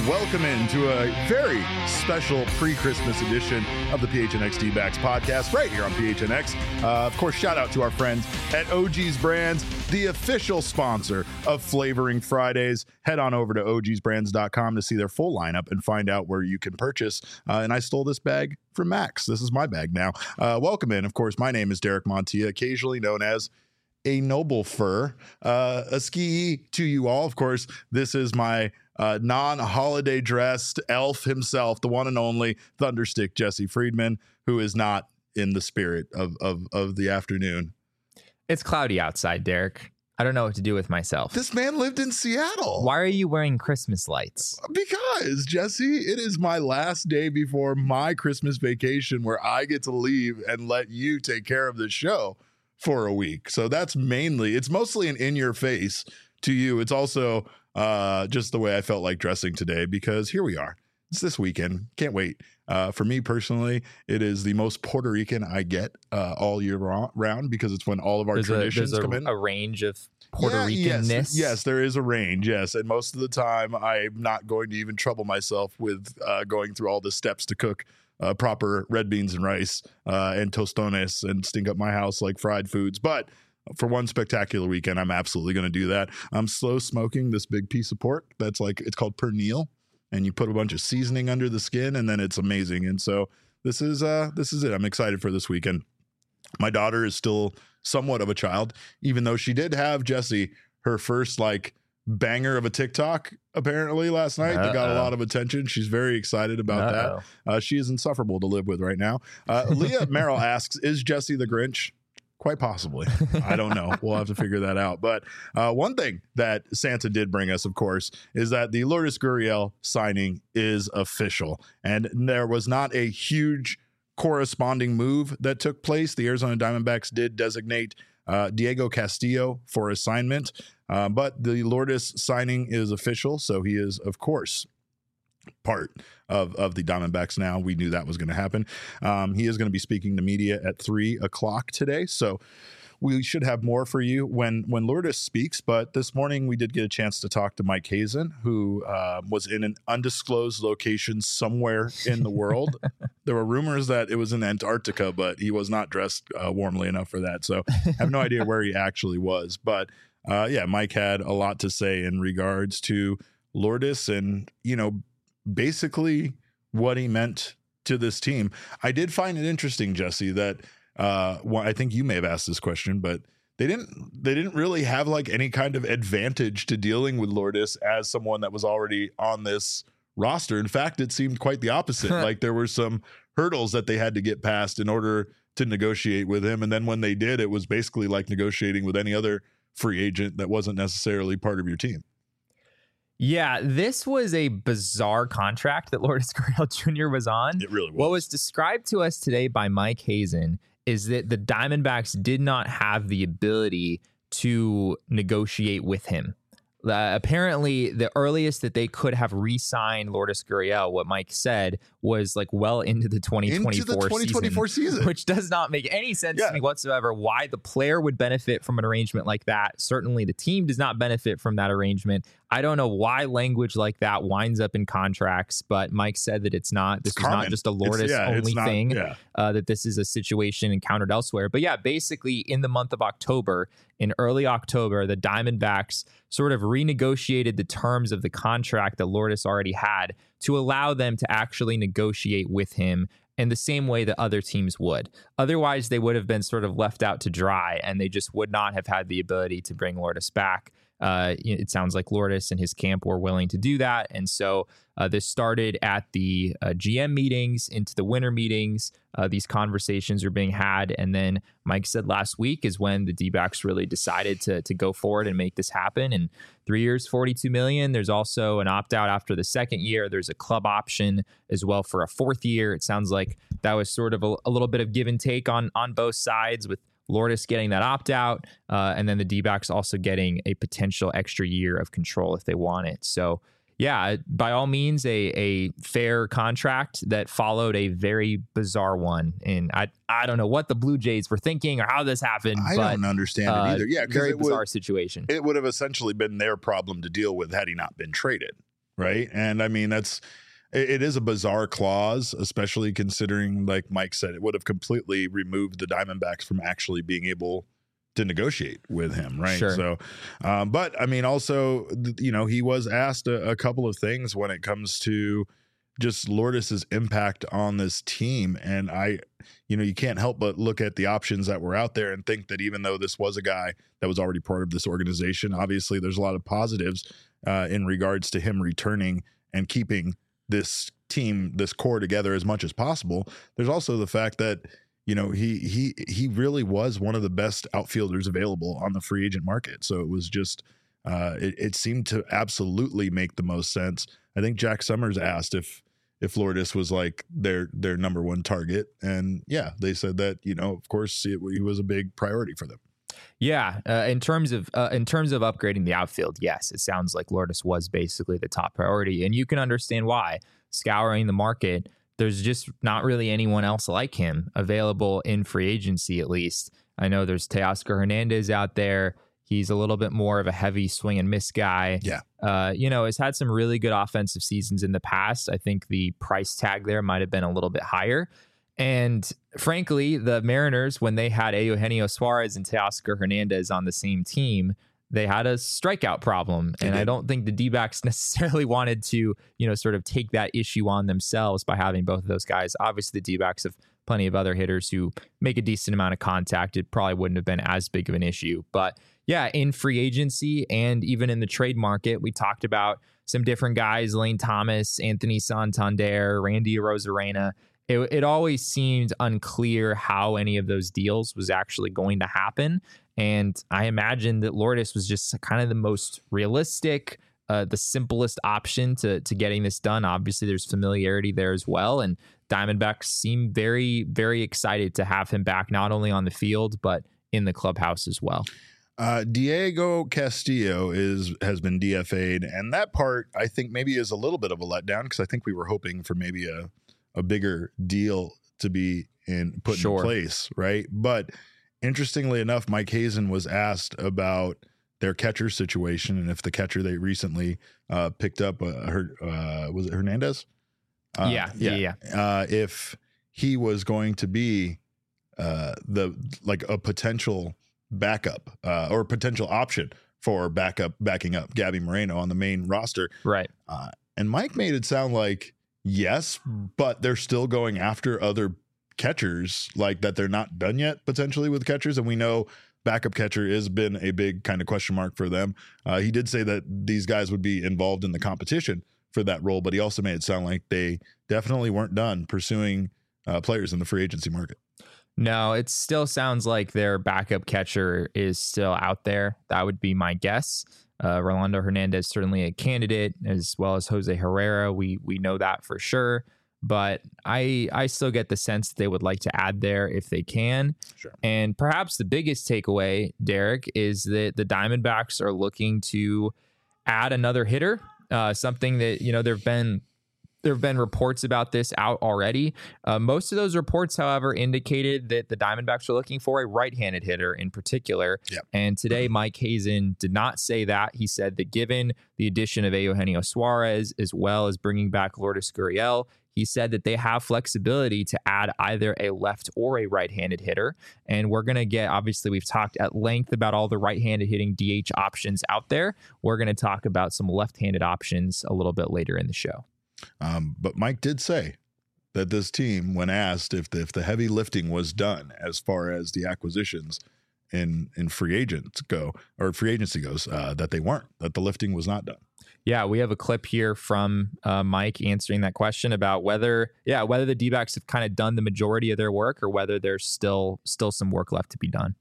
welcome into a very special pre-Christmas edition of the PHNX D-Backs podcast right here on PHNX. Of course, shout out to our friends at OG's Brands, the official sponsor of Flavoring Fridays. Head on over to ogsbrands.com to see their full lineup and find out where you can purchase. And I stole this bag from Max. This is my bag now. Welcome in. Of course, my name is Derek Montilla, occasionally known as a Noble Fur. A ski to you all. Of course, this is my non-holiday dressed elf himself, the one and only Thunderstick Jesse Friedman, who is not in the spirit of the afternoon. It's cloudy outside, Derek. I don't know what to do with myself. This man lived in Seattle. Why are you wearing Christmas lights? Because, Jesse, it is my last day before my Christmas vacation where I get to leave and let you take care of the show for a week. So that's it's mostly an in your face to you. It's also just the way I felt like dressing today, because here we are. It's this weekend. Can't wait. For me personally, it is the most Puerto Rican I get all year round, because it's when all of our traditions come in. A range of Puerto Ricanness. Yes, there is a range. Yes. And most of the time I'm not going to even trouble myself with going through all the steps to cook proper red beans and rice and tostones and stink up my house like fried foods. But for one spectacular weekend, I'm absolutely going to do that. I'm slow smoking this big piece of pork that's it's called pernil, and you put a bunch of seasoning under the skin, and then it's amazing. And so this is it. I'm excited for this weekend. My daughter is still somewhat of a child, even though she did have, Jesse, her first banger of a TikTok apparently last night that got a lot of attention. She's very excited about that. She is insufferable to live with right now. Leah Merrill asks, is Jesse the Grinch? Quite possibly. I don't know. We'll have to figure that out. But one thing that Santa did bring us, of course, is that the Lourdes Gurriel signing is official. And there was not a huge corresponding move that took place. The Arizona Diamondbacks did designate Diego Castillo for assignment, but the Lourdes signing is official. So he is, of course, part of the Diamondbacks now. We knew that was going to happen. He is going to be speaking to media at 3:00 today. So we should have more for you when Lourdes speaks. But this morning we did get a chance to talk to Mike Hazen, who was in an undisclosed location somewhere in the world. There were rumors that it was in Antarctica, but he was not dressed warmly enough for that. So I have no idea where he actually was. But Mike had a lot to say in regards to Lourdes and, basically what he meant to this team. I did find it interesting, Jesse, that I think you may have asked this question, but they didn't really have any kind of advantage to dealing with Lourdes as someone that was already on this roster. In fact, it seemed quite the opposite. There were some hurdles that they had to get past in order to negotiate with him. And then when they did, it was basically like negotiating with any other free agent that wasn't necessarily part of your team. Yeah, this was a bizarre contract that Lourdes Gurriel Jr. was on. It really was. What was described to us today by Mike Hazen is that the Diamondbacks did not have the ability to negotiate with him. Apparently, the earliest that they could have re-signed Lourdes Gurriel, what Mike said, was well into the 2024 season, which does not make any sense to me whatsoever. Why the player would benefit from an arrangement like that? Certainly, the team does not benefit from that arrangement. I don't know why language like that winds up in contracts, but Mike said that this is not just a Lourdes only thing, that this is a situation encountered elsewhere. But basically in the month of October, in early October, the Diamondbacks sort of renegotiated the terms of the contract that Lourdes already had to allow them to actually negotiate with him in the same way that other teams would. Otherwise, they would have been sort of left out to dry, and they just would not have had the ability to bring Lourdes back. It sounds like Lourdes and his camp were willing to do that. And so this started at the GM meetings into the winter meetings. These conversations are being had. And then Mike said last week is when the D-backs really decided to go forward and make this happen. And 3 years, $42 million. There's also an opt-out after the second year. There's a club option as well for a fourth year. It sounds like that was sort of a little bit of give and take on both sides, with Lourdes getting that opt-out, and then the D-backs also getting a potential extra year of control if they want it. So, by all means, a fair contract that followed a very bizarre one. And I don't know what the Blue Jays were thinking or how this happened. I don't understand it either. Yeah, very bizarre situation. It would have essentially been their problem to deal with had he not been traded. right? And I mean, it is a bizarre clause, especially considering, like Mike said, it would have completely removed the Diamondbacks from actually being able to negotiate with him, right? Sure. So, but I mean, also, he was asked a couple of things when it comes to just Lourdis's impact on this team. And you can't help but look at the options that were out there and think that even though this was a guy that was already part of this organization, obviously there's a lot of positives in regards to him returning and keeping this team, this core together as much as possible. There's also the fact that, he really was one of the best outfielders available on the free agent market. So it was just, it seemed to absolutely make the most sense. I think Jack Summers asked if Lourdes was like their number one target. And yeah, they said that, of course he was a big priority for them. Yeah. In terms of upgrading the outfield, yes, it sounds like Lourdes was basically the top priority, and you can understand why. Scouring the market, there's just not really anyone else like him available in free agency, at least. I know there's Teoscar Hernandez out there. He's a little bit more of a heavy swing and miss guy. Yeah. Has had some really good offensive seasons in the past. I think the price tag there might have been a little bit higher. And frankly, the Mariners, when they had Eugenio Suarez and Teoscar Hernandez on the same team, they had a strikeout problem. And I don't think the D-backs necessarily wanted to, sort of take that issue on themselves by having both of those guys. Obviously, the D-backs have plenty of other hitters who make a decent amount of contact. It probably wouldn't have been as big of an issue. But yeah, in free agency and even in the trade market, we talked about some different guys, Lane Thomas, Anthony Santander, Randy Arozarena. It always seemed unclear how any of those deals was actually going to happen. And I imagine that Lourdes was just kind of the most realistic, the simplest option to getting this done. Obviously, there's familiarity there as well. And Diamondbacks seem very, very excited to have him back, not only on the field, but in the clubhouse as well. Diego Castillo has been DFA'd, and that part I think maybe is a little bit of a letdown, because I think we were hoping for maybe a bigger deal to be put in place, right? But interestingly enough, Mike Hazen was asked about their catcher situation and if the catcher they recently picked up, was it Hernandez? Yeah. If he was going to be a potential backup or potential option for backing up Gabby Moreno on the main roster. Right. And Mike made it sound like yes, but they're still going after other catchers, like that they're not done yet potentially with catchers. And we know backup catcher has been a big kind of question mark for them. He did say that these guys would be involved in the competition for that role, but he also made it sound like they definitely weren't done pursuing players in the free agency market. No, it still sounds like their backup catcher is still out there. That would be my guess. Rolando Hernandez, certainly a candidate, as well as Jose Herrera. We know that for sure. But I still get the sense that they would like to add there if they can. Sure. And perhaps the biggest takeaway, Derek, is that the Diamondbacks are looking to add another hitter. Something that, there have been reports about this out already. Most of those reports, however, indicated that the Diamondbacks are looking for a right-handed hitter in particular. Yep. And today, Mike Hazen did not say that. He said that given the addition of Eugenio Suarez, as well as bringing back Lourdes Gurriel, he said that they have flexibility to add either a left or a right-handed hitter. And we're going to get, obviously, we've talked at length about all the right-handed hitting DH options out there. We're going to talk about some left-handed options a little bit later in the show. But Mike did say that this team, when asked if the heavy lifting was done as far as the acquisitions in free agency goes, that they weren't, that the lifting was not done. Yeah, we have a clip here from Mike answering that question about whether the D-backs have kind of done the majority of their work or whether there's still some work left to be done.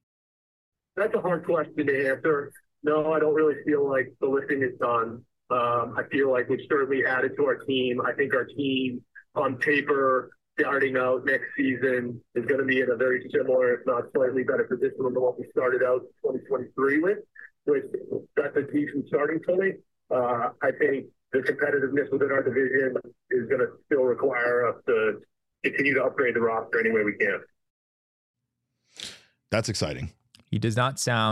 That's a hard question to answer. No, I don't really feel like the lifting is done. I feel like we've certainly added to our team. I think our team on paper starting out next season is going to be in a very similar, if not slightly better position than what we started out 2023 with, which that's a decent starting point. I think the competitiveness within our division is going to still require us to continue to upgrade the roster any way we can. That's exciting. He does not sound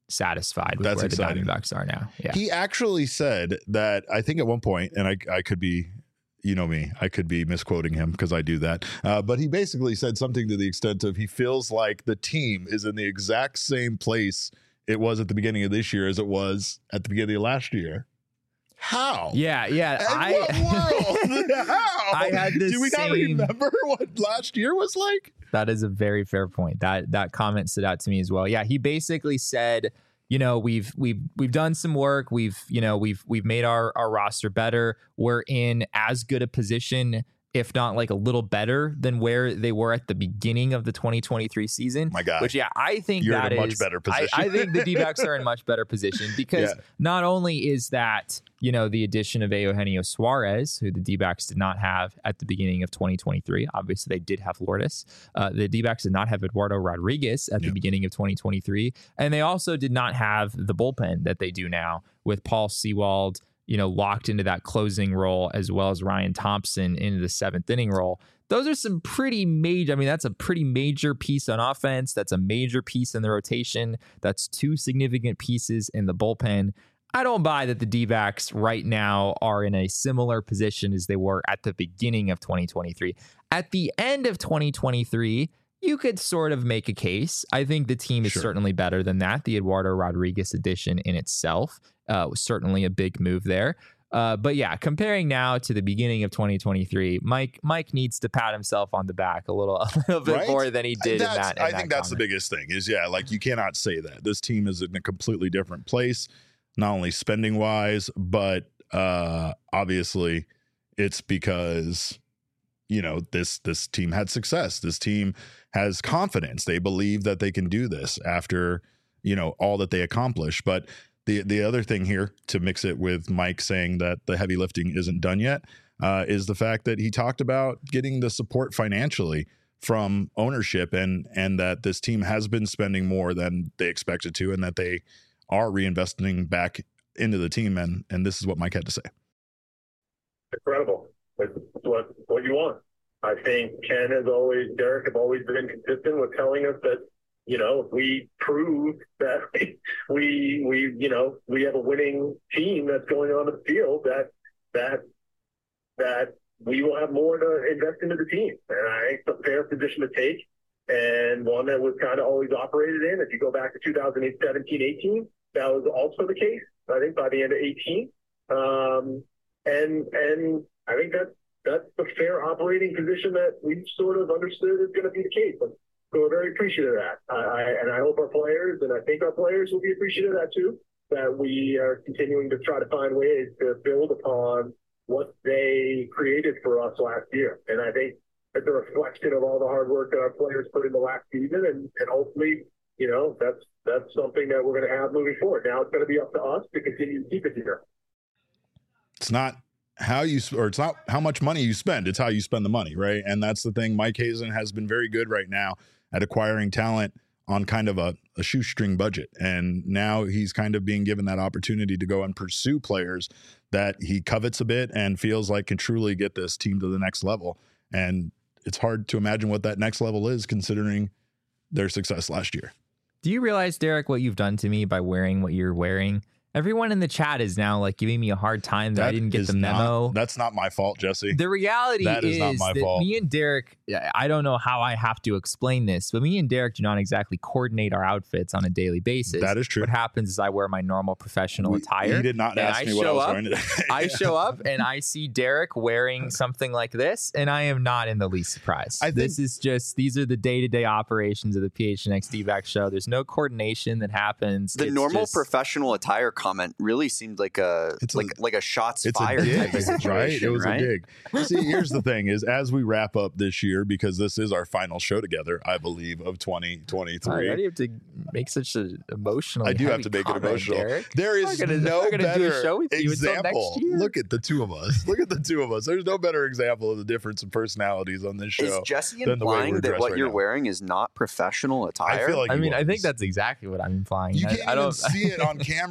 satisfied with That's where exciting. the Diamondbacks are now. Yeah. He actually said that, I think at one point, and I could be, you know me, I could be misquoting him because I do that. But he basically said something to the extent of he feels like the team is in the exact same place it was at the beginning of this year as it was at the beginning of last year. How? Yeah. In what world? How? I had this Do we not remember what last year was like? That is a very fair point. That comment stood out to me as well. Yeah, he basically said, you know, we've done some work. We've made our roster better. We're in as good a position, if not like a little better than where they were at the beginning of the 2023 season. My God. Which, yeah, I think you're that in a is much better position. I think the D-backs are in much better position because not only is that, you know, the addition of Eugenio Suarez, who the D-backs did not have at the beginning of 2023. Obviously, they did have Lourdes. The D-backs did not have Eduardo Rodriguez at the beginning of 2023. And they also did not have the bullpen that they do now with Paul Sewald, you know, locked into that closing role, as well as Ryan Thompson into the 7th inning role. Those are some pretty major, I mean, that's a pretty major piece on offense. That's a major piece in the rotation. That's 2 significant pieces in the bullpen. I don't buy that the D-backs right now are in a similar position as they were at the beginning of 2023. At the end of 2023, you could sort of make a case. I think the team is certainly better than that. The Eduardo Rodriguez addition in itself was certainly a big move there. But yeah, comparing now to the beginning of 2023, Mike needs to pat himself on the back a little bit more than he did in that. I think that's the biggest thing is, like, you cannot say that. This team is in a completely different place, not only spending wise, but obviously it's because, you know, this team had success. This team has confidence. They believe that they can do this after, you know, all that they accomplished. But the other thing here, to mix it with Mike saying that the heavy lifting isn't done yet, is the fact that he talked about getting the support financially from ownership and that this team has been spending more than they expected to and that they are reinvesting back into the team. And this is what Mike had to say. Incredible. It's what you want. I think Ken Derek have always been consistent with telling us that, you know, we prove that we have a winning team that's going on the field, that we will have more to invest into the team. And I think it's a fair position to take, and one that was kind of always operated in. If you go back to 2017, 18, that was also the case, I think, by the end of 18. And I think that's the fair operating position that we've sort of understood is going to be the case. So we're very appreciative of that. I hope our players, and I think our players will be appreciative of that too, that we are continuing to try to find ways to build upon what they created for us last year. And I think it's a reflection of all the hard work that our players put in the last season. And hopefully, you know, that's something that we're going to have moving forward. Now it's going to be up to us to continue to keep it here. It's not it's not how much money you spend, it's how you spend the money, right? And that's the thing. Mike Hazen has been very good right now at acquiring talent on kind of a shoestring budget. And now he's kind of being given that opportunity to go and pursue players that he covets a bit and feels like can truly get this team to the next level. And it's hard to imagine what that next level is considering their success last year. Do you realize, Derek, what you've done to me by wearing what you're wearing? Everyone in the chat is now like giving me a hard time that I didn't get the memo. That's not my fault, Jesse. The reality is not my that fault. Me and Derek, I don't know how I have to explain this, but me and Derek do not exactly coordinate our outfits on a daily basis. That is true. What happens is I wear my normal professional attire. He did not ask me what I was wearing today. I show up and I see Derek wearing something like this, and I am not in the least surprised. These are the day-to-day operations of the PHNX D-back show. There's no coordination that happens. The normal professional attire comment really seemed like a shots fired type of situation, right? It was right? a dig. See, here's the thing: is as we wrap up this year, because this is our final show together, I believe, of 2023. Why do you have to make such an emotional? I do have to make it emotional. Derek. There is no better example. Next Look at the two of us. Look at the two of us. There's no better example of the difference in personalities on this show. Is Jesse implying that what you're wearing is not professional attire? I feel like I think that's exactly what I'm implying. You can't even see it on camera, but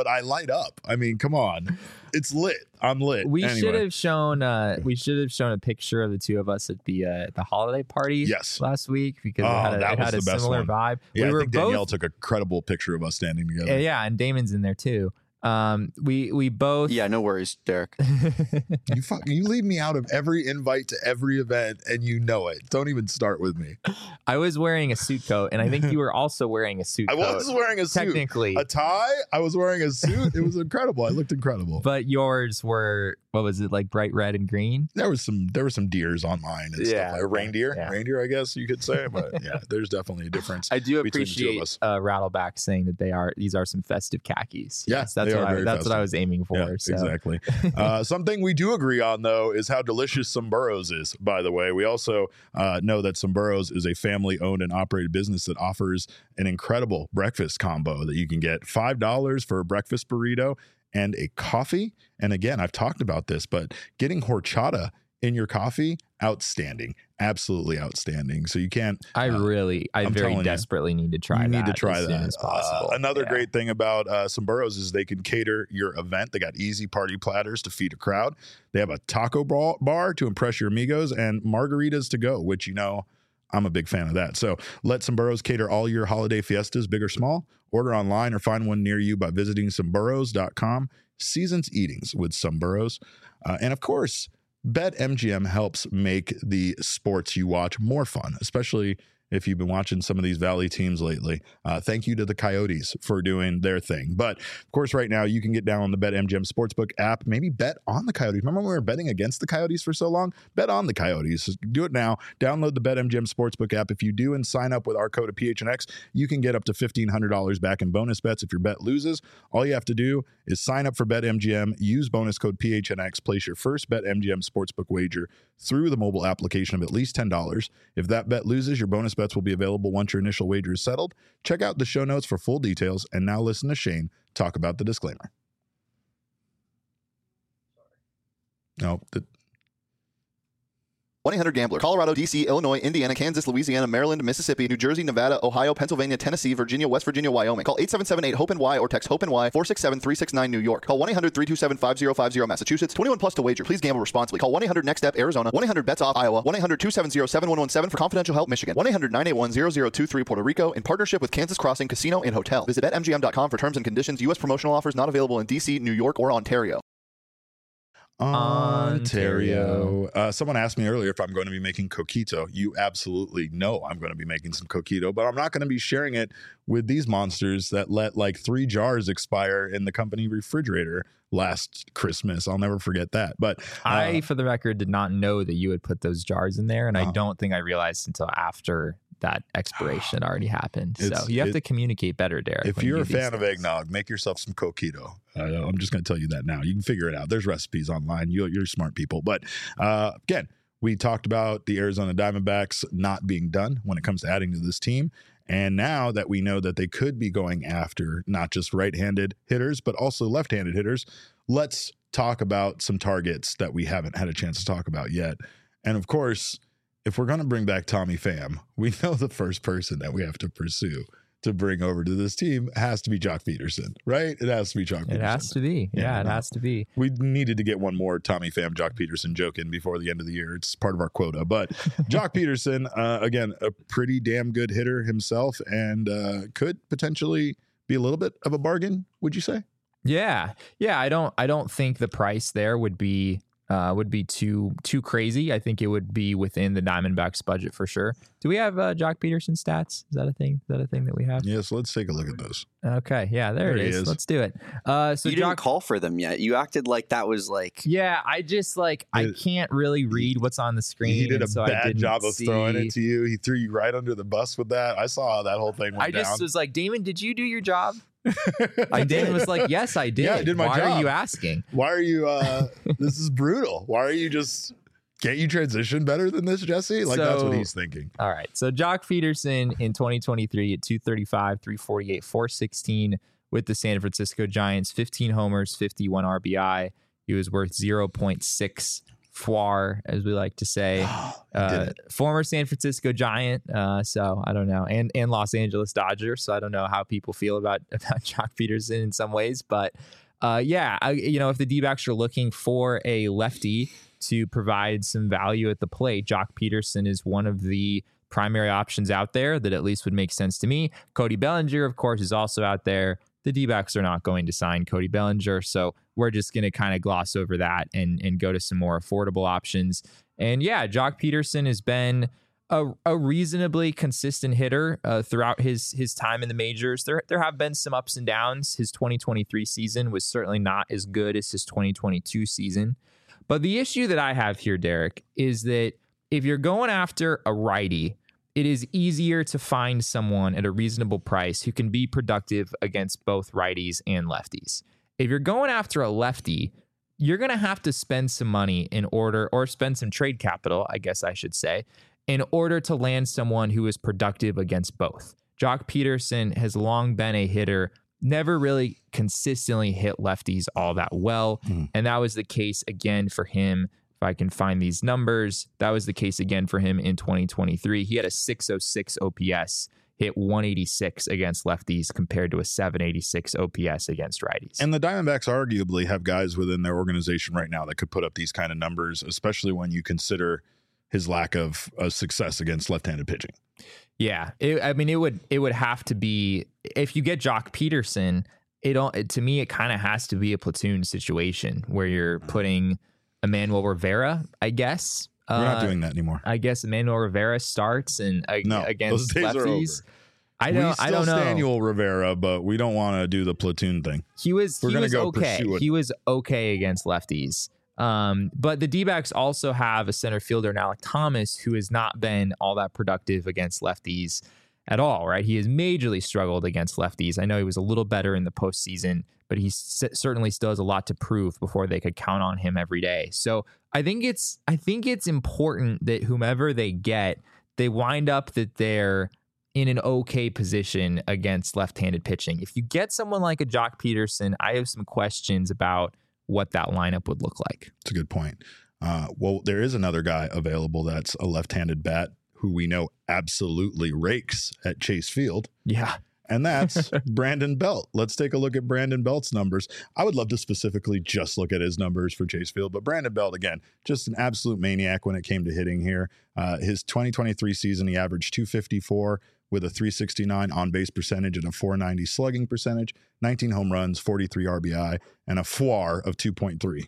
but I light up. I mean, come on. It's lit. I'm lit. We anyway. should have shown a picture of the two of us at the holiday party last week because it had a similar vibe. Yeah, I think Danielle took a credible picture of us standing together. Yeah, and Damon's in there too. We both. Yeah, no worries, Derek. You leave me out of every invite to every event, and you know it. Don't even start with me. I was wearing a suit coat, and I think you were also wearing a suit coat. I was wearing a suit. Technically. A tie. I was wearing a suit. It was incredible. I looked incredible. But yours were, what was it, like bright red and green? There was some deers on mine and stuff. Like reindeer. Yeah. Reindeer, I guess you could say. But yeah, there's definitely a difference. I do appreciate Rattleback saying that these are some festive khakis. Yes, that's what I was aiming for. Yeah, so. Exactly. Something we do agree on, though, is how delicious Symboros is, by the way. We also know that Symboros is a family-owned and operated business that offers an incredible breakfast combo that you can get $5 for a breakfast burrito and a coffee. And again, I've talked about this, but getting horchata in your coffee, outstanding, absolutely outstanding. So you can't. I very desperately need to try that. You need to try as that soon as possible. Another great thing about Symboros is they can cater your event. They got easy party platters to feed a crowd. They have a taco bar to impress your amigos and margaritas to go, which I'm a big fan of that. So let Symboros cater all your holiday fiestas, big or small. Order online or find one near you by visiting Symboros.com. Seasons eatings with Symboros. And of course, BetMGM helps make the sports you watch more fun, especially if you've been watching some of these Valley teams lately. Thank you to the Coyotes for doing their thing. But, of course, right now you can get down on the BetMGM Sportsbook app, maybe bet on the Coyotes. Remember when we were betting against the Coyotes for so long? Bet on the Coyotes. Do it now. Download the BetMGM Sportsbook app. If you do and sign up with our code of PHNX, you can get up to $1,500 back in bonus bets if your bet loses. All you have to do is sign up for BetMGM, use bonus code PHNX, place your first BetMGM Sportsbook wager through the mobile application of at least $10. If that bet loses, your bonus bets will be available once your initial wager is settled. Check out the show notes for full details. And now listen to Shane talk about the disclaimer. No, 1-800-GAMBLER. Colorado, D.C., Illinois, Indiana, Kansas, Louisiana, Maryland, Mississippi, New Jersey, Nevada, Ohio, Pennsylvania, Tennessee, Virginia, West Virginia, Wyoming. Call 877-8-HOPE-NY or text HOPE-NY 467-369 New York. Call 1-800-327-5050 Massachusetts. 21 plus to wager. Please gamble responsibly. Call 1-800-NEXT-STEP Arizona. 1-800-BETS-OFF Iowa. 1-800-270-7117 for confidential help Michigan. 1-800-981-0023 Puerto Rico in partnership with Kansas Crossing Casino and Hotel. Visit BetMGM.com for terms and conditions. U.S. promotional offers not available in D.C., New York, or Ontario. Someone asked me earlier if I'm going to be making coquito. You absolutely know I'm going to be making some coquito, but I'm not going to be sharing it with these monsters that let like 3 jars expire in the company refrigerator last Christmas. I'll never forget that. But I, for the record, did not know that you had put those jars in there, and I don't think I realized until after that expiration already happened. So you have to communicate better, Derek. If you're a fan of eggnog, make yourself some coquito. I'm just going to tell you that now. You can figure it out. There's recipes online. You're smart people. But again, we talked about the Arizona Diamondbacks not being done when it comes to adding to this team. And now that we know that they could be going after not just right-handed hitters, but also left-handed hitters, let's talk about some targets that we haven't had a chance to talk about yet. And of course, if we're going to bring back Tommy Pham, we know the first person that we have to pursue to bring over to this team has to be Joc Pederson, right? It has to be Joc Pederson. It has to be. Yeah, it has to be. We needed to get one more Tommy Pham, Joc Pederson joke in before the end of the year. It's part of our quota. But Joc Pederson, again, a pretty damn good hitter himself and could potentially be a little bit of a bargain, would you say? Yeah. I don't think the price there would be too crazy. I think it would be within the Diamondbacks budget for sure. Do we have Joc Pederson stats? Is that a thing? Is that a thing that we have? Yes, let's take a look at those. Okay, yeah, there it is. Let's do it. So you didn't call for them yet. You acted like that was like. Yeah, I just I can't really read what's on the screen. He did a bad job of throwing it to you. He threw you right under the bus with that. I saw how that whole thing went down. I just was like, Damon, did you do your job? Damon was like, yes, I did. Yeah, I did my job. Why are you asking? Why are you this is brutal. Why are you just can't you transition better than this, Jesse? That's what he's thinking. All right. So Joc Pederson in 2023 at 235, 348, 416 with the San Francisco Giants, 15 homers, 51 RBI. He was worth 0.6 Fwar, as we like to say, former San Francisco Giant. So I don't know, and Los Angeles Dodger. So I don't know how people feel about Joc Pederson in some ways, but if the D-backs are looking for a lefty to provide some value at the plate, Joc Pederson is one of the primary options out there that at least would make sense to me. Cody Bellinger, of course, is also out there. The D-backs are not going to sign Cody Bellinger, so we're just going to kind of gloss over that and go to some more affordable options. And yeah, Joc Pederson has been a reasonably consistent hitter throughout his time in the majors. There have been some ups and downs. His 2023 season was certainly not as good as his 2022 season. But the issue that I have here, Derek, is that if you're going after a righty, it is easier to find someone at a reasonable price who can be productive against both righties and lefties. If you're going after a lefty, you're going to have to spend some money or spend some trade capital, I guess I should say, in order to land someone who is productive against both. Joc Pederson has long been a hitter, never really consistently hit lefties all that well. And that was the case again for him. If I can find these numbers, that was the case again for him in 2023. He had a 606 OPS, hit 186 against lefties compared to a 786 OPS against righties. And the Diamondbacks arguably have guys within their organization right now that could put up these kind of numbers, especially when you consider his lack of success against left-handed pitching. Yeah, it would have to be, if you get Joc Pederson, to me it kind of has to be a platoon situation where you're putting Emmanuel Rivera, I guess. We're not doing that anymore. I guess Emmanuel Rivera starts against those days lefties. Are over. I don't know. Emmanuel Rivera, but we don't want to do the platoon thing. He was okay. He was okay against lefties. But the D-backs also have a center fielder in Alek Thomas, who has not been all that productive against lefties at all, right? He has majorly struggled against lefties. I know he was a little better in the postseason, but he certainly still has a lot to prove before they could count on him every day. So I think it's important that whomever they get, they wind up that they're in an okay position against left-handed pitching. If you get someone like a Joc Pederson, I have some questions about what that lineup would look like. It's a good point. Well, there is another guy available that's a left-handed bat who we know absolutely rakes at Chase Field. Yeah. And that's Brandon Belt. Let's take a look at Brandon Belt's numbers. I would love to specifically just look at his numbers for Chase Field, but Brandon Belt, again, just an absolute maniac when it came to hitting here. His 2023 season, he averaged 254 with a 369 on-base percentage and a 490 slugging percentage, 19 home runs, 43 RBI, and a FWAR of 2.3.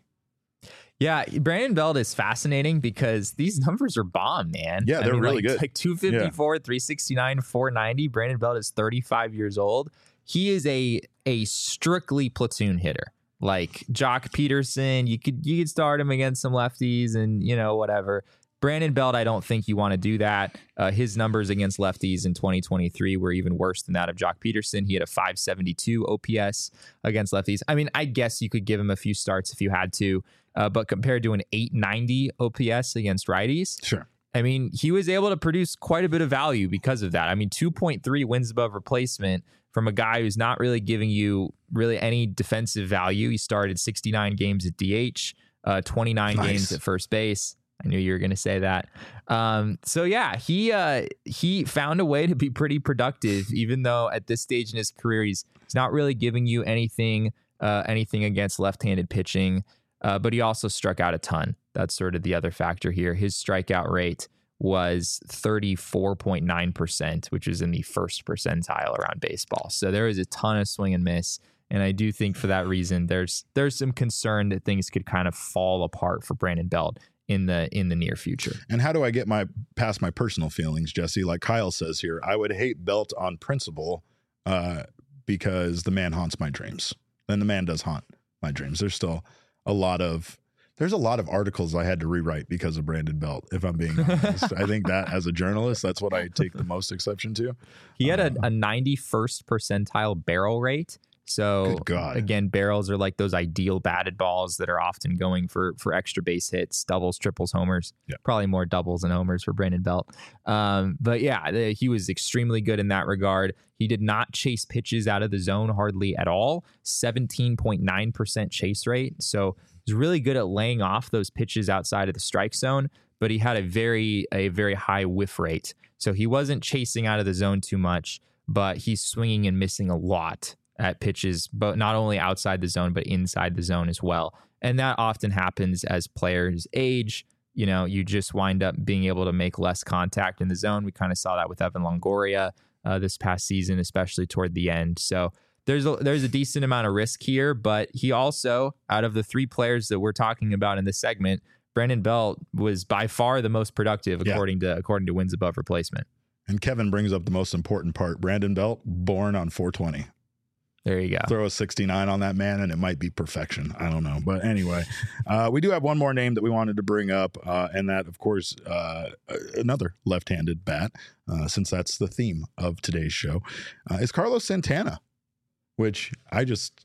Yeah, Brandon Belt is fascinating because these numbers are bomb, man. Yeah, they're really good. Like 254, 369, 490. Brandon Belt is 35 years old. He is a strictly platoon hitter. Like Joc Pederson, you could start him against some lefties and, whatever. Brandon Belt, I don't think you want to do that. His numbers against lefties in 2023 were even worse than that of Joc Pederson. He had a 572 OPS against lefties. I mean, I guess you could give him a few starts if you had to, but compared to an 890 OPS against righties, sure. I mean, he was able to produce quite a bit of value because of that. I mean, 2.3 wins above replacement from a guy who's not really giving you really any defensive value. He started 69 games at DH, 29 games at first base. I knew you were going to say that. So yeah, he found a way to be pretty productive, even though at this stage in his career, he's not really giving you anything against left-handed pitching. But he also struck out a ton. That's sort of the other factor here. His strikeout rate was 34.9%, which is in the first percentile around baseball. So there is a ton of swing and miss. And I do think for that reason, there's some concern that things could kind of fall apart for Brandon Belt in the near future. And how do I get past my personal feelings, Jesse? Like Kyle says here, I would hate Belt on principle because the man haunts my dreams. And the man does haunt my dreams. There's still a lot of articles I had to rewrite because of Brandon Belt, if I'm being honest. I think that as a journalist, that's what I take the most exception to. He had a 91st percentile barrel rate. So again, barrels are like those ideal batted balls that are often going for extra base hits, doubles, triples, homers. Yeah. Probably more doubles than homers for Brandon Belt. But yeah, he was extremely good in that regard. He did not chase pitches out of the zone hardly at all. 17.9% chase rate. So He's really good at laying off those pitches outside of the strike zone, but he had a very high whiff rate. So he wasn't chasing out of the zone too much, but he's swinging and missing a lot at pitches, but not only outside the zone, but inside the zone as well. And that often happens as players age. You just wind up being able to make less contact in the zone. We kind of saw that with Evan Longoria this past season, especially toward the end. So there's a decent amount of risk here, but he also, out of the 3 players that we're talking about in this segment, Brandon Belt was by far the most productive according to wins above replacement. And Kevin brings up the most important part. Brandon Belt, born on 420. There you go. Throw a 69 on that man and it might be perfection. I don't know. But anyway, we do have one more name that we wanted to bring up. And that, of course, another left-handed bat, since that's the theme of today's show, is Carlos Santana, which I just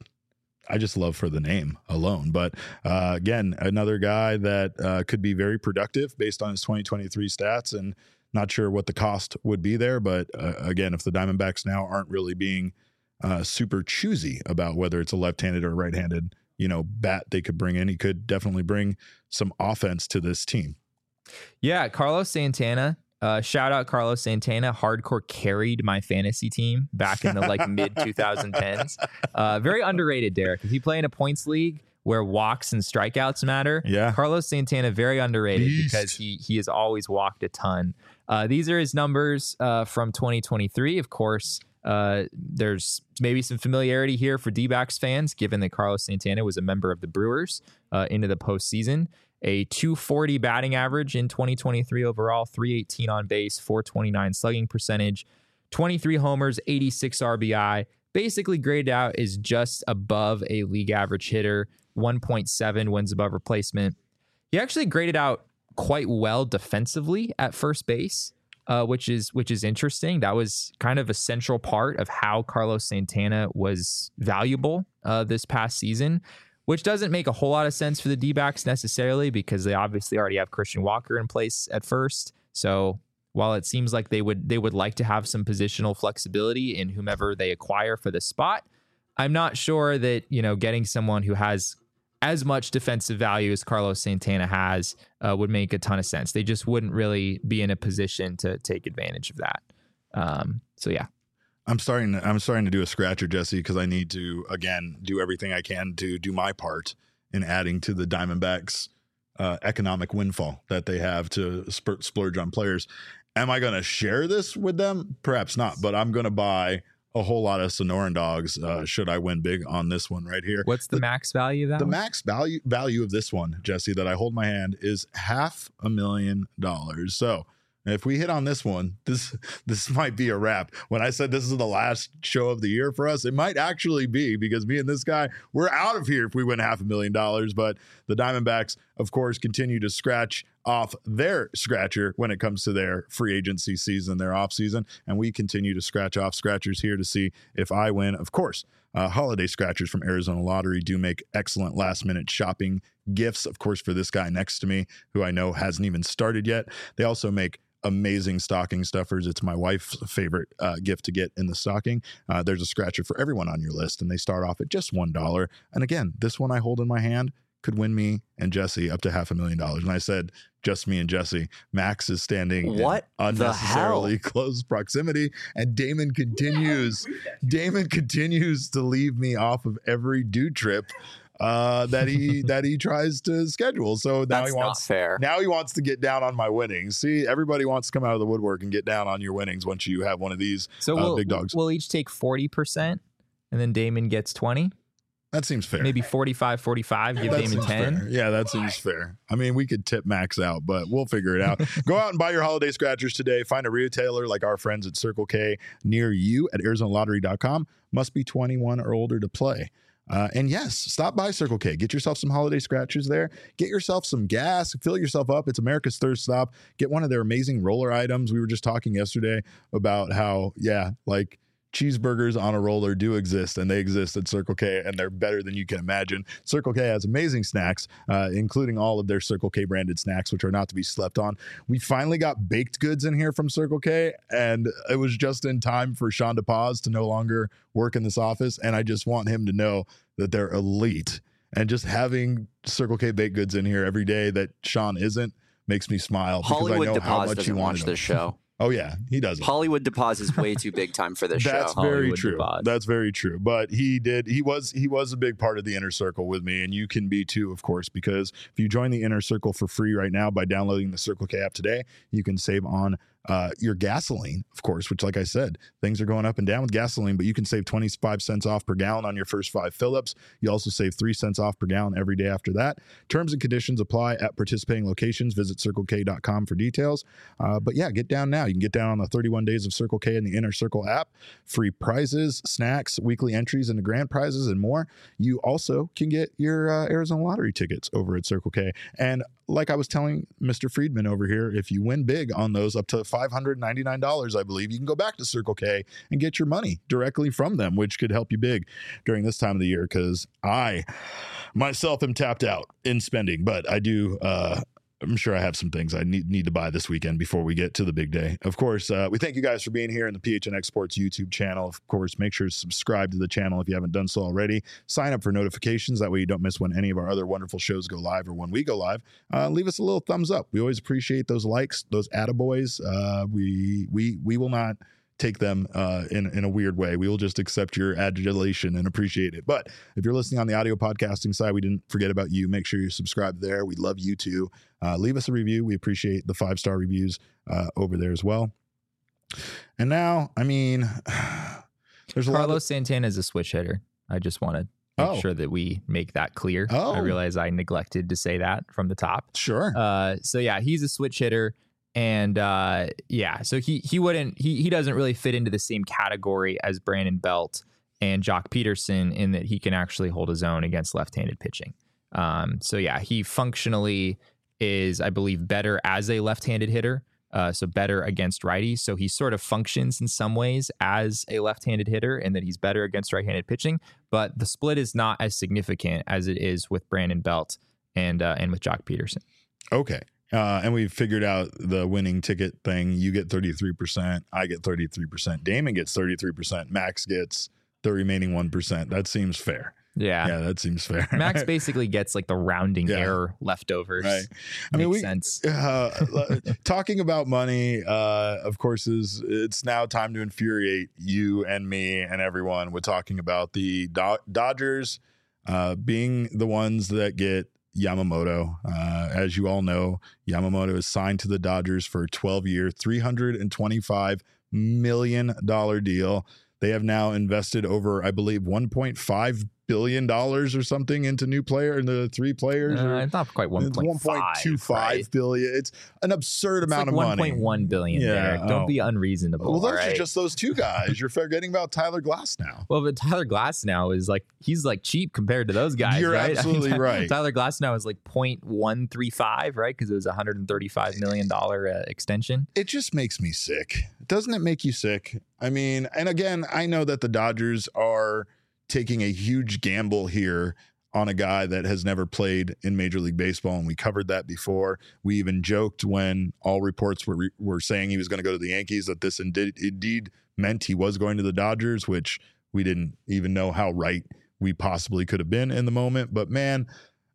love for the name alone. But again, another guy that could be very productive based on his 2023 stats, and not sure what the cost would be there. But again, if the Diamondbacks now aren't really being super choosy about whether it's a left-handed or right-handed, bat they could bring in, he could definitely bring some offense to this team. Yeah, Carlos Santana. Shout out Carlos Santana. Hardcore carried my fantasy team back in the mid 2010s. Very underrated, Derek. If you play in a points league where walks and strikeouts matter, Carlos Santana very underrated because he has always walked a ton. These are his numbers from 2023. Of course, there's maybe some familiarity here for D-backs fans, given that Carlos Santana was a member of the Brewers into the postseason. A 240 batting average in 2023 overall, 318 on base, 429 slugging percentage, 23 homers, 86 RBI. Basically graded out is just above a league average hitter, 1.7 wins above replacement. He actually graded out quite well defensively at first base, which is interesting. That was kind of a central part of how Carlos Santana was valuable this past season, which doesn't make a whole lot of sense for the D-backs necessarily because they obviously already have Christian Walker in place at first. So while it seems like they would like to have some positional flexibility in whomever they acquire for the spot, I'm not sure that, getting someone who has as much defensive value as Carlos Santana has would make a ton of sense. They just wouldn't really be in a position to take advantage of that. So yeah. I'm starting to do a scratcher, Jesse, because I need to, again, do everything I can to do my part in adding to the Diamondbacks' economic windfall that they have to splurge on players. Am I going to share this with them? Perhaps not, but I'm going to buy a whole lot of Sonoran dogs should I win big on this one right here. What's the max value of that? The max value of this one, Jesse, that I hold in my hand is $500,000. So if we hit on this one, this might be a wrap. When I said this is the last show of the year for us, it might actually be, because me and this guy, we're out of here if we win $500,000. But the Diamondbacks, of course, continue to scratch off their scratcher when it comes to their free agency season, their off season. And we continue to scratch off scratchers here to see if I win. Of course, holiday scratchers from Arizona Lottery do make excellent last minute shopping gifts. Of course, for this guy next to me, who I know hasn't even started yet, they also make amazing stocking stuffers. It's my wife's favorite gift to get in the stocking. There's a scratcher for everyone on your list, and they start off at just $1. And again, this one I hold in my hand could win me and Jesse up to $500,000. And I said, just me and Jesse. Max is standing in unnecessarily close proximity, and Damon continues to leave me off of every dude trip that he tries to schedule. So now he wants to get down on my winnings. See, everybody wants to come out of the woodwork and get down on your winnings once you have one of these big dogs. We'll each take 40%, and then Damon gets 20. That seems fair. Maybe 45-45, give Damon 10. Fair. Yeah, that seems fair. I mean, we could tip Max out, but we'll figure it out. Go out and buy your holiday scratchers today. Find a retailer like our friends at Circle K near you at ArizonaLottery.com. Must be 21 or older to play. And yes, stop by Circle K. Get yourself some holiday scratchers there. Get yourself some gas. Fill yourself up. It's America's thirst stop. Get one of their amazing roller items. We were just talking yesterday about how, cheeseburgers on a roller do exist, and they exist at Circle K, and they're better than you can imagine. Circle K has amazing snacks, including all of their Circle K branded snacks, which are not to be slept on. We finally got baked goods in here from Circle K, and it was just in time for Sean DePaz to no longer work in this office, and I just want him to know that they're elite. And just having Circle K baked goods in here every day that Sean isn't makes me smile. Hollywood because I know how Deposit much doesn't you watch this show. Oh yeah, he doesn't. Hollywood Deposit is way too big time for this That's show. very Hollywood true. Deposit. That's very true. But he was a big part of the Inner Circle with me, and you can be too, of course, because if you join the Inner Circle for free right now by downloading the Circle K app today, you can save on your gasoline, of course, which, like I said, things are going up and down with gasoline, but you can save 25 cents off per gallon on your first 5 fill-ups. You also save 3 cents off per gallon every day after that. Terms and conditions apply at participating locations. Visit CircleK.com for details. But yeah, get down now. You can get down on the 31 days of Circle K in the Inner Circle app. Free prizes, snacks, weekly entries into grand prizes, and more. You also can get your Arizona lottery tickets over at Circle K. And like I was telling Mr. Friedman over here, if you win big on those up to $599, I believe, you can go back to Circle K and get your money directly from them, which could help you big during this time of the year, because I myself am tapped out in spending, but I do I'm sure I have some things I need to buy this weekend before we get to the big day. Of course, we thank you guys for being here in the PHNX Sports YouTube channel. Of course, make sure to subscribe to the channel if you haven't done so already. Sign up for notifications. That way you don't miss when any of our other wonderful shows go live or when we go live. Leave us a little thumbs up. We always appreciate those likes, those attaboys. We will not take them in a weird way. We will just accept your adulation and appreciate it. But if you're listening on the audio podcasting side, we didn't forget about you. Make sure you subscribe there. We love you too. Leave us a review. We appreciate the 5-star reviews over there as well. And now, I mean, there's a Carlos Santana is a switch hitter. I just want to make sure that we make that clear. I realize I neglected to say that from the top. Sure. So yeah, he's a switch hitter. And so he doesn't really fit into the same category as Brandon Belt and Jock Peterson in that he can actually hold his own against left-handed pitching. So yeah, he functionally is, I believe, better as a left-handed hitter. So better against righties. So he sort of functions in some ways as a left-handed hitter in that he's better against right-handed pitching. But the split is not as significant as it is with Brandon Belt and with Jock Peterson. Okay. And we've figured out the winning ticket thing. You get 33%. I get 33%. Damon gets 33%. Max gets the remaining 1%. That seems fair. Yeah, that seems fair. Max basically gets like the rounding error leftovers. Right. I mean, makes sense. Talking about money, of course, it's now time to infuriate you and me and everyone with talking about the Dodgers being the ones that get Yamamoto. As you all know, Yamamoto is signed to the Dodgers for a 12-year, $325 million deal. They have now invested over, I believe, $1.5 billion or something into the 3 players. It's not quite 1.25 right? billion. It's an absurd amount of money. 1.1 billion. Yeah, don't be unreasonable. Well, those are just those 2 guys. You're forgetting about Tyler Glasnow. Well, but Tyler Glasnow is he's cheap compared to those guys. You're right? absolutely right. Tyler Glasnow is 0.135, right? Because it was a $135 million extension. It just makes me sick. Doesn't it make you sick? I mean, and again, I know that the Dodgers are taking a huge gamble here on a guy that has never played in Major League Baseball, and we covered that before. We even joked when all reports were saying he was going to go to the Yankees that this indeed meant he was going to the Dodgers, which we didn't even know how right we possibly could have been in the moment. But man,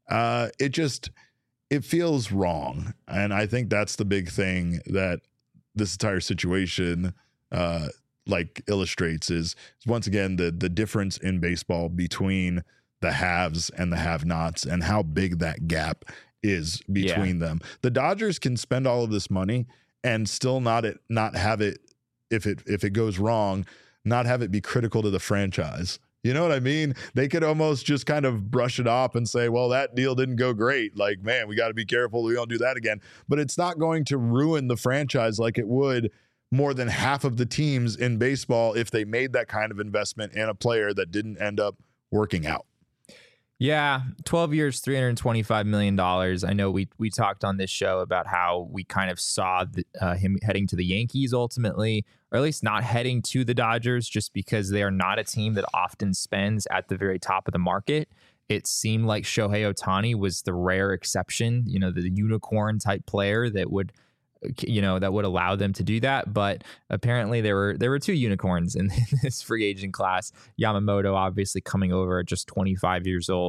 it feels wrong, and I think that's the big thing that this entire situation illustrates is once again the difference in baseball between the haves and the have-nots and how big that gap is between them. The Dodgers can spend all of this money and still not have it, if it goes wrong, not have it be critical to the franchise. You know what I mean? They could almost just kind of brush it off and say, well, that deal didn't go great. Man, we got to be careful. We don't do that again. But it's not going to ruin the franchise like it would more than half of the teams in baseball if they made that kind of investment in a player that didn't end up working out. Yeah, 12 years, $325 million. I know we talked on this show about how we kind of saw him heading to the Yankees ultimately, or at least not heading to the Dodgers, just because they are not a team that often spends at the very top of the market. It seemed like Shohei Ohtani was the rare exception, the unicorn type player that would allow them to do that. But apparently there were 2 unicorns in this free agent class. Yamamoto obviously coming over at just 25 years old.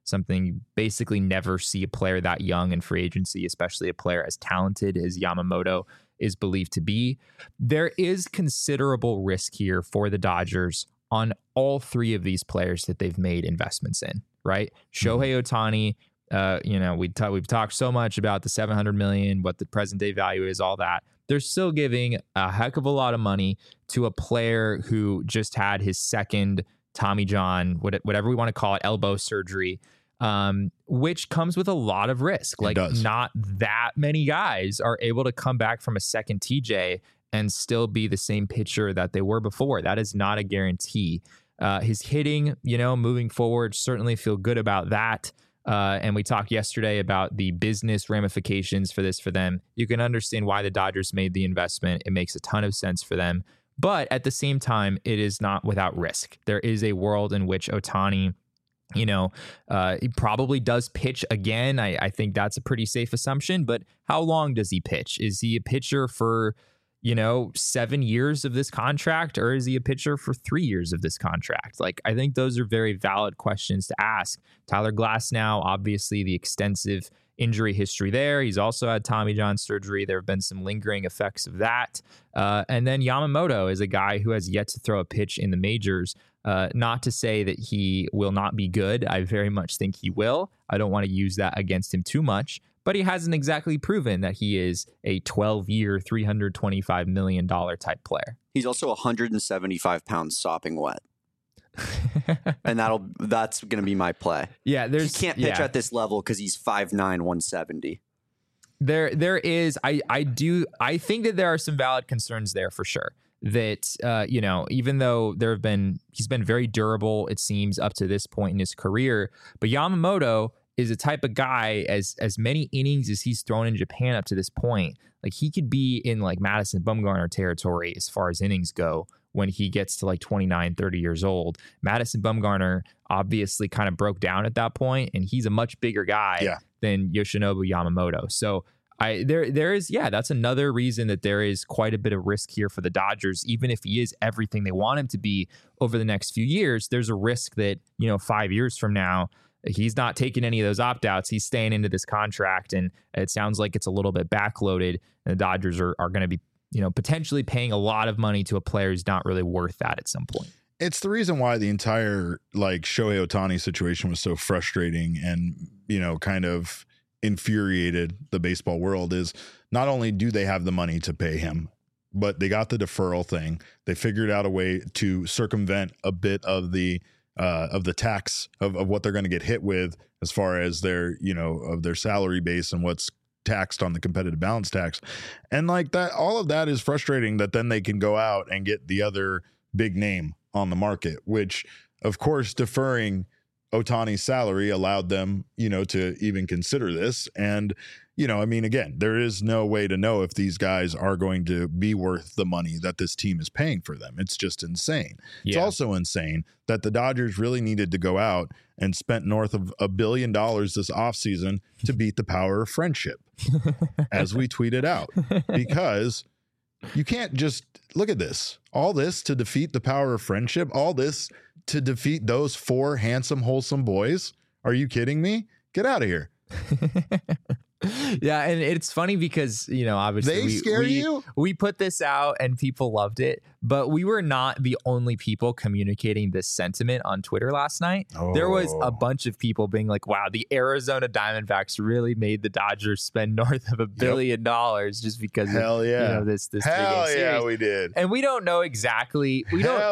something you basically never see a player that young in free agency, especially a player as talented as Yamamoto is believed to be. There is considerable risk here for the Dodgers on all three of these players that they've made investments in, right? Shohei Ohtani, we've talked so much about the $700 million, what the present day value is, all that. They're still giving a heck of a lot of money to a player who just had his second Tommy John, whatever we want to call it, elbow surgery, which comes with a lot of risk. Like, not that many guys are able to come back from a second TJ and still be the same pitcher that they were before. That is not a guarantee. His hitting, moving forward, certainly feel good about that. And we talked yesterday about the business ramifications for this for them. You can understand why the Dodgers made the investment. It makes a ton of sense for them. But at the same time, it is not without risk. There is a world in which Ohtani, he probably does pitch again. I think that's a pretty safe assumption. But how long does he pitch? Is he a pitcher for 7 years of this contract, or is he a pitcher for 3 years of this contract? Like, I think those are very valid questions to ask. Tyler Glasnow, obviously the extensive injury history there. He's also had Tommy John surgery. There have been some lingering effects of that. And then Yamamoto is a guy who has yet to throw a pitch in the majors. Not to say that he will not be good. I very much think he will. I don't want to use that against him too much. But he hasn't exactly proven that he is a 12-year, $325 million type player. He's also 175 pounds sopping wet. And that's going to be my play. Yeah, he can't pitch at this level because he's 5'9", 170. There is, I think that there are some valid concerns there for sure. That, even though he's been very durable, it seems, up to this point in his career. But Yamamoto is a type of guy, as many innings as he's thrown in Japan up to this point, like, he could be in like Madison Bumgarner territory as far as innings go when he gets to like 29, 30 years old. Madison Bumgarner obviously kind of broke down at that point, and he's a much bigger guy than Yoshinobu Yamamoto. So there is, that's another reason that there is quite a bit of risk here for the Dodgers. Even if he is everything they want him to be over the next few years, there's a risk that, 5 years from now, he's not taking any of those opt-outs. He's staying into this contract, and it sounds like it's a little bit backloaded, and the Dodgers are going to be, potentially paying a lot of money to a player who's not really worth that at some point. It's the reason why the entire Shohei Ohtani situation was so frustrating and, kind of infuriated the baseball world. Is not only do they have the money to pay him, but they got the deferral thing. They figured out a way to circumvent a bit of the tax of what they're going to get hit with as far as their, of their salary base and what's taxed on the competitive balance tax. And like that, all of that is frustrating, that then they can go out and get the other big name on the market, which of course deferring Ohtani's salary allowed them, to even consider this. And, again, there is no way to know if these guys are going to be worth the money that this team is paying for them. It's just insane. Yeah. It's also insane that the Dodgers really needed to go out and spent north of $1 billion this offseason to beat the power of friendship, as we tweeted out, because you can't just look at this, all this to defeat the power of friendship, all this to defeat those 4 handsome, wholesome boys. Are you kidding me? Get out of here. Yeah, and it's funny because, obviously we put this out and people loved it, but we were not the only people communicating this sentiment on Twitter last night. There was a bunch of people being like, wow, the Arizona Diamondbacks really made the Dodgers spend north of $1 billion just because of this Hell big yeah, series. we did. And we don't know exactly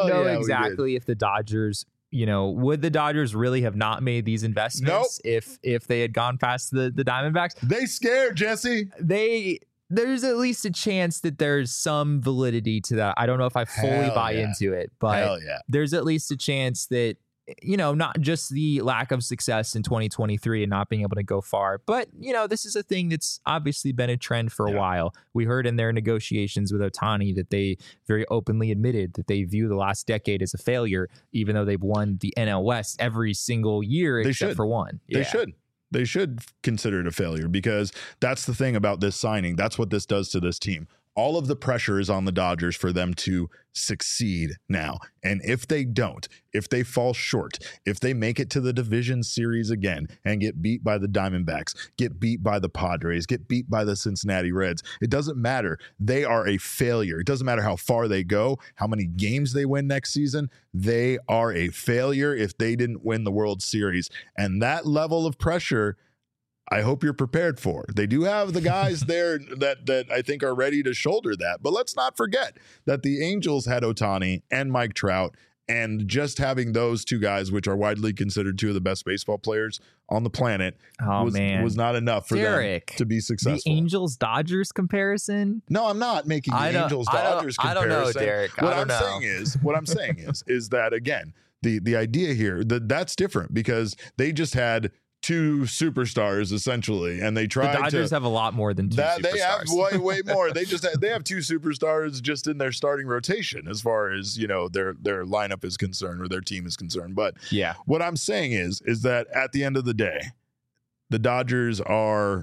if the Dodgers, would the Dodgers really have not made these investments if they had gone past the Diamondbacks? They scared, Jesse. There's at least a chance that there's some validity to that. I don't know if I fully buy into it, but there's at least a chance that, not just the lack of success in 2023 and not being able to go far, but, this is a thing that's obviously been a trend for a while. We heard in their negotiations with Ohtani that they very openly admitted that they view the last decade as a failure, even though they've won the NL West every single year except for one. They should consider it a failure, because that's the thing about this signing. That's what this does to this team. all of the pressure is on the Dodgers for them to succeed now. And if they don't, if they fall short, if they make it to the division series again and get beat by the Diamondbacks, get beat by the Padres, get beat by the Cincinnati Reds, it doesn't matter. They are a failure. It doesn't matter how far they go, how many games they win next season. They are a failure if they didn't win the World Series. And that level of pressure, I hope you're prepared for. They do have the guys there that I think are ready to shoulder that. But let's not forget that the Angels had Ohtani and Mike Trout, and just having those two guys, which are widely considered two of the best baseball players on the planet, was not enough for them to be successful. The Angels-Dodgers comparison? No, I'm not making the Angels-Dodgers comparison. I don't know, Derek. What I'm saying is that, again, the idea here, that's different because they just had two superstars essentially, and they tried. The Dodgers have a lot more than two superstars. They have way more. They have two superstars just in their starting rotation, as far as their lineup is concerned or their team is concerned. But yeah, what I'm saying is that at the end of the day, the Dodgers are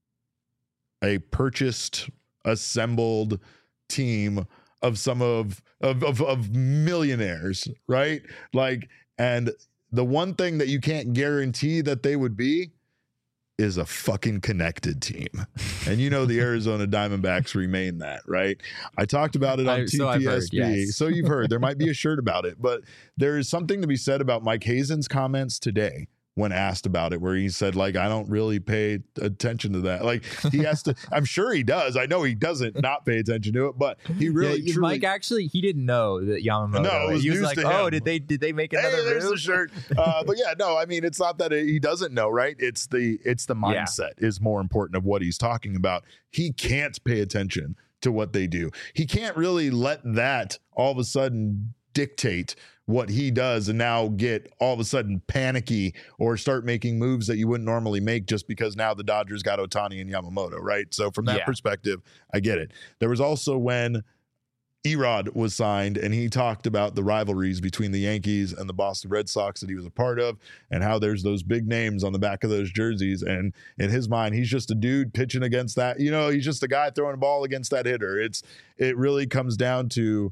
a purchased, assembled team of some of millionaires, right? And the one thing that you can't guarantee that they would be is a fucking connected team. And the Arizona Diamondbacks remain that, right? I talked about it on TPSB. Yes. So you've heard. There might be a shirt about it, but there is something to be said about Mike Hazen's comments today when asked about it, where he said, I don't really pay attention to that. He has to, I'm sure he does. I know he doesn't not pay attention to it, but he really, truly. Mike actually, he didn't know that Yamamoto. No, it was he was news like, to oh, him. did they make another move? There's the shirt. But yeah, no, I mean, it's not that he doesn't know, right? It's the mindset is more important of what he's talking about. He can't pay attention to what they do. He can't really let that all of a sudden dictate what he does and now get all of a sudden panicky or start making moves that you wouldn't normally make just because now the Dodgers got Ohtani and Yamamoto, right? So from that perspective, I get it. There was also when Erod was signed, and he talked about the rivalries between the Yankees and the Boston Red Sox that he was a part of, and how there's those big names on the back of those jerseys. And in his mind, he's just a dude pitching against that. He's just a guy throwing a ball against that hitter. It really comes down to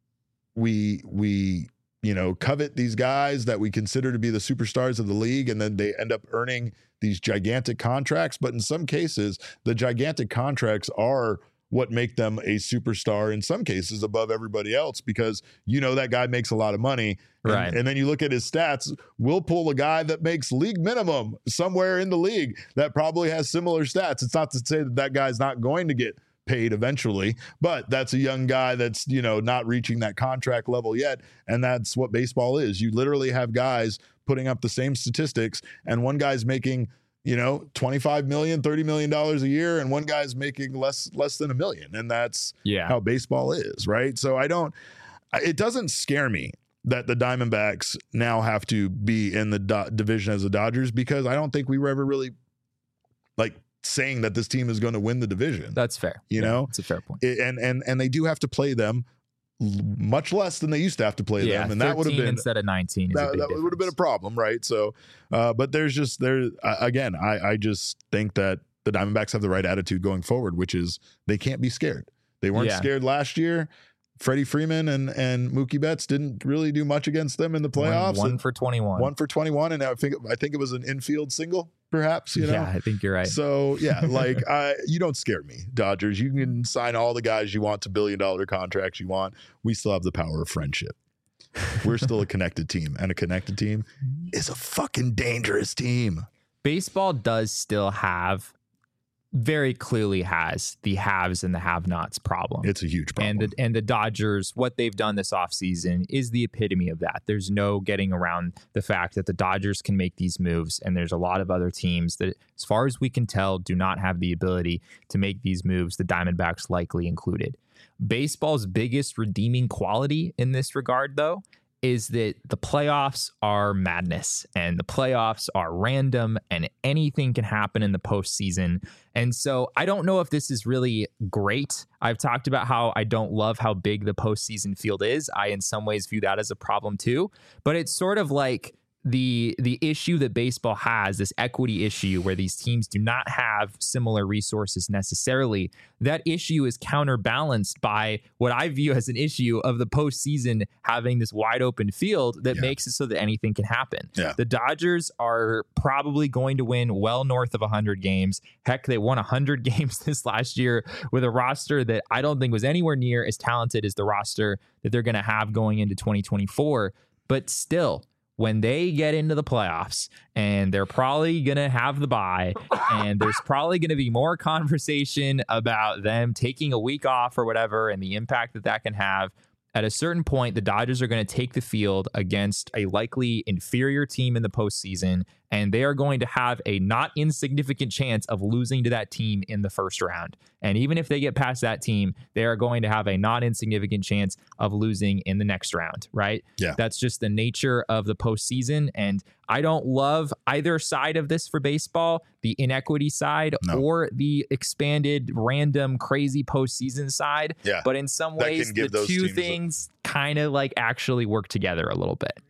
we covet these guys that we consider to be the superstars of the league, and then they end up earning these gigantic contracts. But in some cases, the gigantic contracts are what make them a superstar, in some cases above everybody else, because that guy makes a lot of money. Right. And then you look at his stats, we'll pull a guy that makes league minimum somewhere in the league that probably has similar stats. It's not to say that guy's not going to get paid eventually, but that's a young guy that's not reaching that contract level yet, and that's what baseball is. You literally have guys putting up the same statistics, and one guy's making $25 million, $30 million a year, and one guy's making less than $1 million, and that's how baseball is, right? So it doesn't scare me that the Diamondbacks now have to be in the division as the Dodgers, because I don't think we were ever really saying that this team is going to win the division. That's fair. It's a fair point. And they do have to play them much less than they used to have to play them, and that would have been instead of 19. That would have been a problem, right? So, but again, I just think that the Diamondbacks have the right attitude going forward, which is they can't be scared. They weren't scared last year. Freddie Freeman and Mookie Betts didn't really do much against them in the playoffs. One for 21. 1 for 21, and I think it was an infield single, perhaps. Yeah, I think you're right. So yeah, you don't scare me, Dodgers. You can sign all the guys you want to $1 billion contracts you want. We still have the power of friendship. We're still a connected team, and a connected team is a fucking dangerous team. Baseball does still very clearly has the haves and the have-nots problem. It's a huge problem. And the Dodgers, what they've done this offseason is the epitome of that. There's no getting around the fact that the Dodgers can make these moves, and there's a lot of other teams that, as far as we can tell, do not have the ability to make these moves, the Diamondbacks likely included. Baseball's biggest redeeming quality in this regard, though, is that the playoffs are madness, and the playoffs are random, and anything can happen in the postseason. And so I don't know if this is really great. I've talked about how I don't love how big the postseason field is. I, in some ways, view that as a problem too. But it's sort of like the issue that baseball has, this equity issue where these teams do not have similar resources necessarily, that issue is counterbalanced by what I view as an issue of the postseason having this wide open field that makes it so that anything can happen. Yeah. The Dodgers are probably going to win well north of 100 games. Heck, they won 100 games this last year with a roster that I don't think was anywhere near as talented as the roster that they're going to have going into 2024. But still, when they get into the playoffs and they're probably going to have the bye and there's probably going to be more conversation about them taking a week off or whatever and the impact that that can have, at a certain point, the Dodgers are going to take the field against a likely inferior team in the postseason, and they are going to have a not insignificant chance of losing to that team in the first round. And even if they get past that team, they are going to have a not insignificant chance of losing in the next round, right? Yeah. That's just the nature of the postseason. And I don't love either side of this for baseball, the inequity side or the expanded, random, crazy postseason side. Yeah. But in some ways, the two things kind of like actually work together a little bit.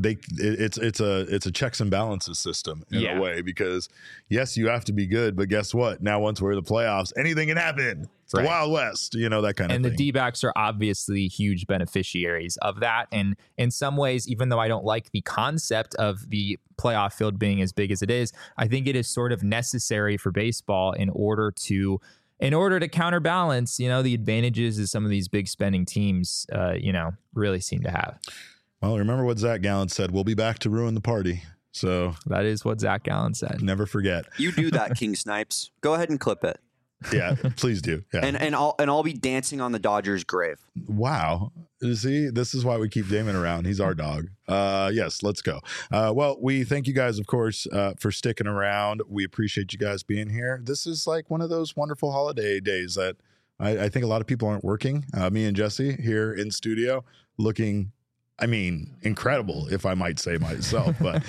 It's a checks and balances system in a way, because yes, you have to be good, but guess what? Now, once we're in the playoffs, anything can happen. It's the Wild West, you know, that kind of thing. And the D-backs are obviously huge beneficiaries of that. And in some ways, even though I don't like the concept of the playoff field being as big as it is, I think it is sort of necessary for baseball in order to counterbalance, you know, the advantages that some of these big spending teams, really seem to have. Well, remember what Zach Gallen said, we'll be back to ruin the party. So that is what Zach Gallen said. Never forget. You do that, King Snipes. Go ahead and clip it. Yeah, please do. Yeah. And I'll be dancing on the Dodgers' grave. Wow. See, this is why we keep Damon around. He's our dog. Yes, let's go. Well, we thank you guys, of course, for sticking around. We appreciate you guys being here. This is like one of those wonderful holiday days that I think a lot of people aren't working. Me and Jesse here in studio looking, I mean, incredible, if I might say myself. But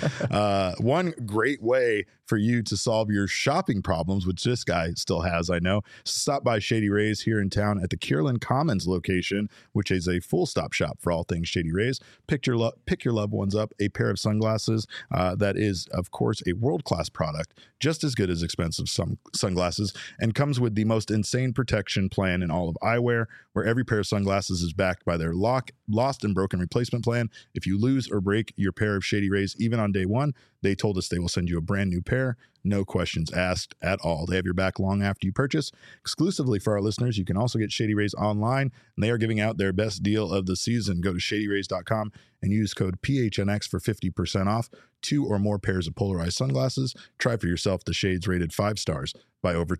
one great way for you to solve your shopping problems, which this guy still has, I know, stop by Shady Rays here in town at the Kierland Commons location, which is a full stop shop for all things Shady Rays. Pick your loved ones up a pair of sunglasses that is, of course, a world-class product, just as good as expensive sunglasses, and comes with the most insane protection plan in all of eyewear, where every pair of sunglasses is backed by their lost and broken replacement plan. If you lose or break your pair of Shady Rays, even on day one, they told us they will send you a brand new pair. No questions asked at all. They have your back long after you purchase. Exclusively for our listeners, you can also get Shady Rays online, and they are giving out their best deal of the season. Go to shadyrays.com and use code PHNX for 50% off 2 or more pairs of polarized sunglasses. Try for yourself the shades rated 5 stars by over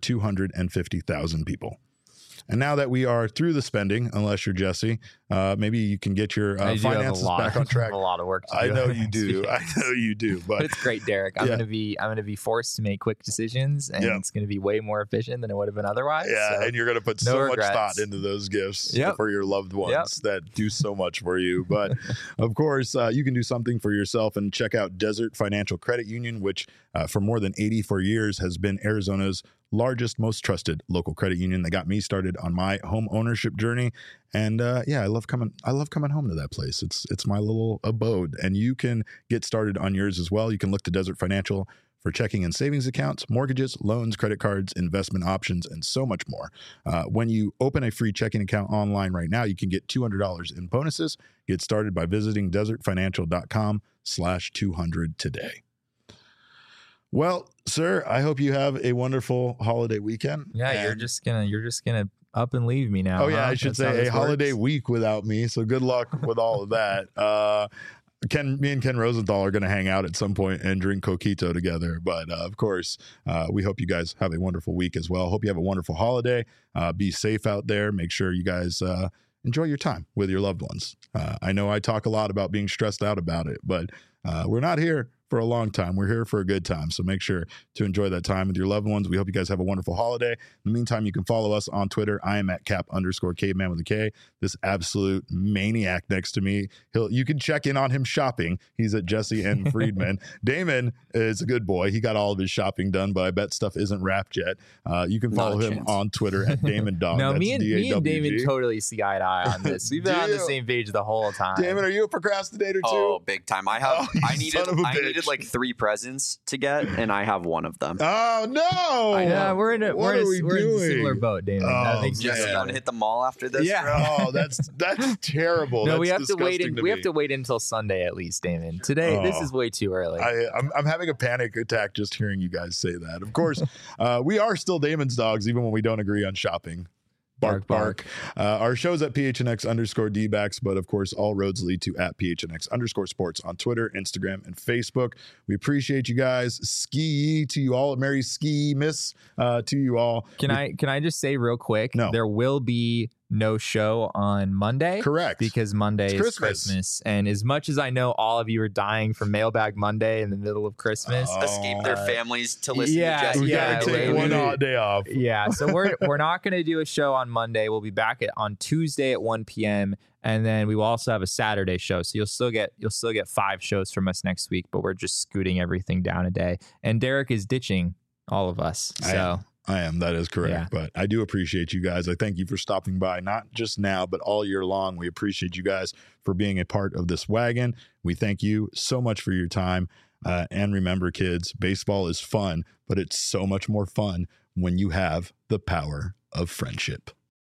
250,000 people. And now that we are through the spending, unless you're Jesse, maybe you can get your finances back on track. A lot of work to do. I know you do. I know you do. But it's great, Derek. I'm gonna be forced to make quick decisions, and it's gonna be way more efficient than it would have been otherwise. Yeah, and you're gonna put so much thought into those gifts for your loved ones that do so much for you. But of course, you can do something for yourself and check out Desert Financial Credit Union, which for more than 84 years has been Arizona's largest, most trusted local credit union. They got me started on my home ownership journey, and I love coming home to that place. It's my little abode, and you can get started on yours as well. You can look to Desert Financial for checking and savings accounts, mortgages, loans, credit cards, investment options, and so much more. When you open a free checking account online right now, you can get $200 in bonuses. Get started by visiting desertfinancial.com/200 today. Well, sir, I hope you have a wonderful holiday weekend. Yeah, you're just gonna up and leave me now. Oh yeah, I should say a holiday week without me. So good luck with all of that. Me and Ken Rosenthal are going to hang out at some point and drink coquito together. But of course, we hope you guys have a wonderful week as well. Hope you have a wonderful holiday. Be safe out there. Make sure you guys enjoy your time with your loved ones. I know I talk a lot about being stressed out about it, but we're not here for a long time. We're here for a good time. So make sure to enjoy that time with your loved ones. We hope you guys have a wonderful holiday. In the meantime, you can follow us on Twitter. I am at cap_caveman with a K. This absolute maniac next to me. You can check in on him shopping. He's at Jesse N. Friedman. Damon is a good boy. He got all of his shopping done, but I bet stuff isn't wrapped yet. You can follow him on Twitter at Damon Dog. No, That's me and D-A-W-G. Damon totally see eye to eye on this. We've been on the same page the whole time. Damon, are you a procrastinator too? Oh, big time. I needed like 3 presents to get, and I have one of them. Oh no! Yeah, we're in a similar boat, Damon. Oh, makes Jesse, you want to hit the mall after this? Yeah. Oh, that's terrible. No, That's we have to wait. disgusting We have me. to wait until Sunday at least, Damon. Today, this is way too early. I'm having a panic attack just hearing you guys say that. Of course, we are still Damon's dogs, even when we don't agree on shopping. Bark, bark. Our show's at PHNX_D-backs, but of course, all roads lead to at PHNX_sports on Twitter, Instagram, and Facebook. We appreciate you guys. Ski to you all. Merry ski miss to you all. Can I just say real quick? No. There will be no show on Monday. Correct. Because Monday is Christmas. And as much as I know all of you are dying for Mailbag Monday in the middle of Christmas. Escape their families to listen to Jesse. We gotta take one odd day off. Yeah. So we're not going to do a show on Monday. We'll be back on Tuesday at 1 p.m. And then we will also have a Saturday show. So you'll still get 5 shows from us next week, but we're just scooting everything down a day. And Derek is ditching all of us. So I am. That is correct. Yeah. But I do appreciate you guys. I thank you for stopping by, not just now, but all year long. We appreciate you guys for being a part of this wagon. We thank you so much for your time. And remember, kids, baseball is fun, but it's so much more fun when you have the power of friendship.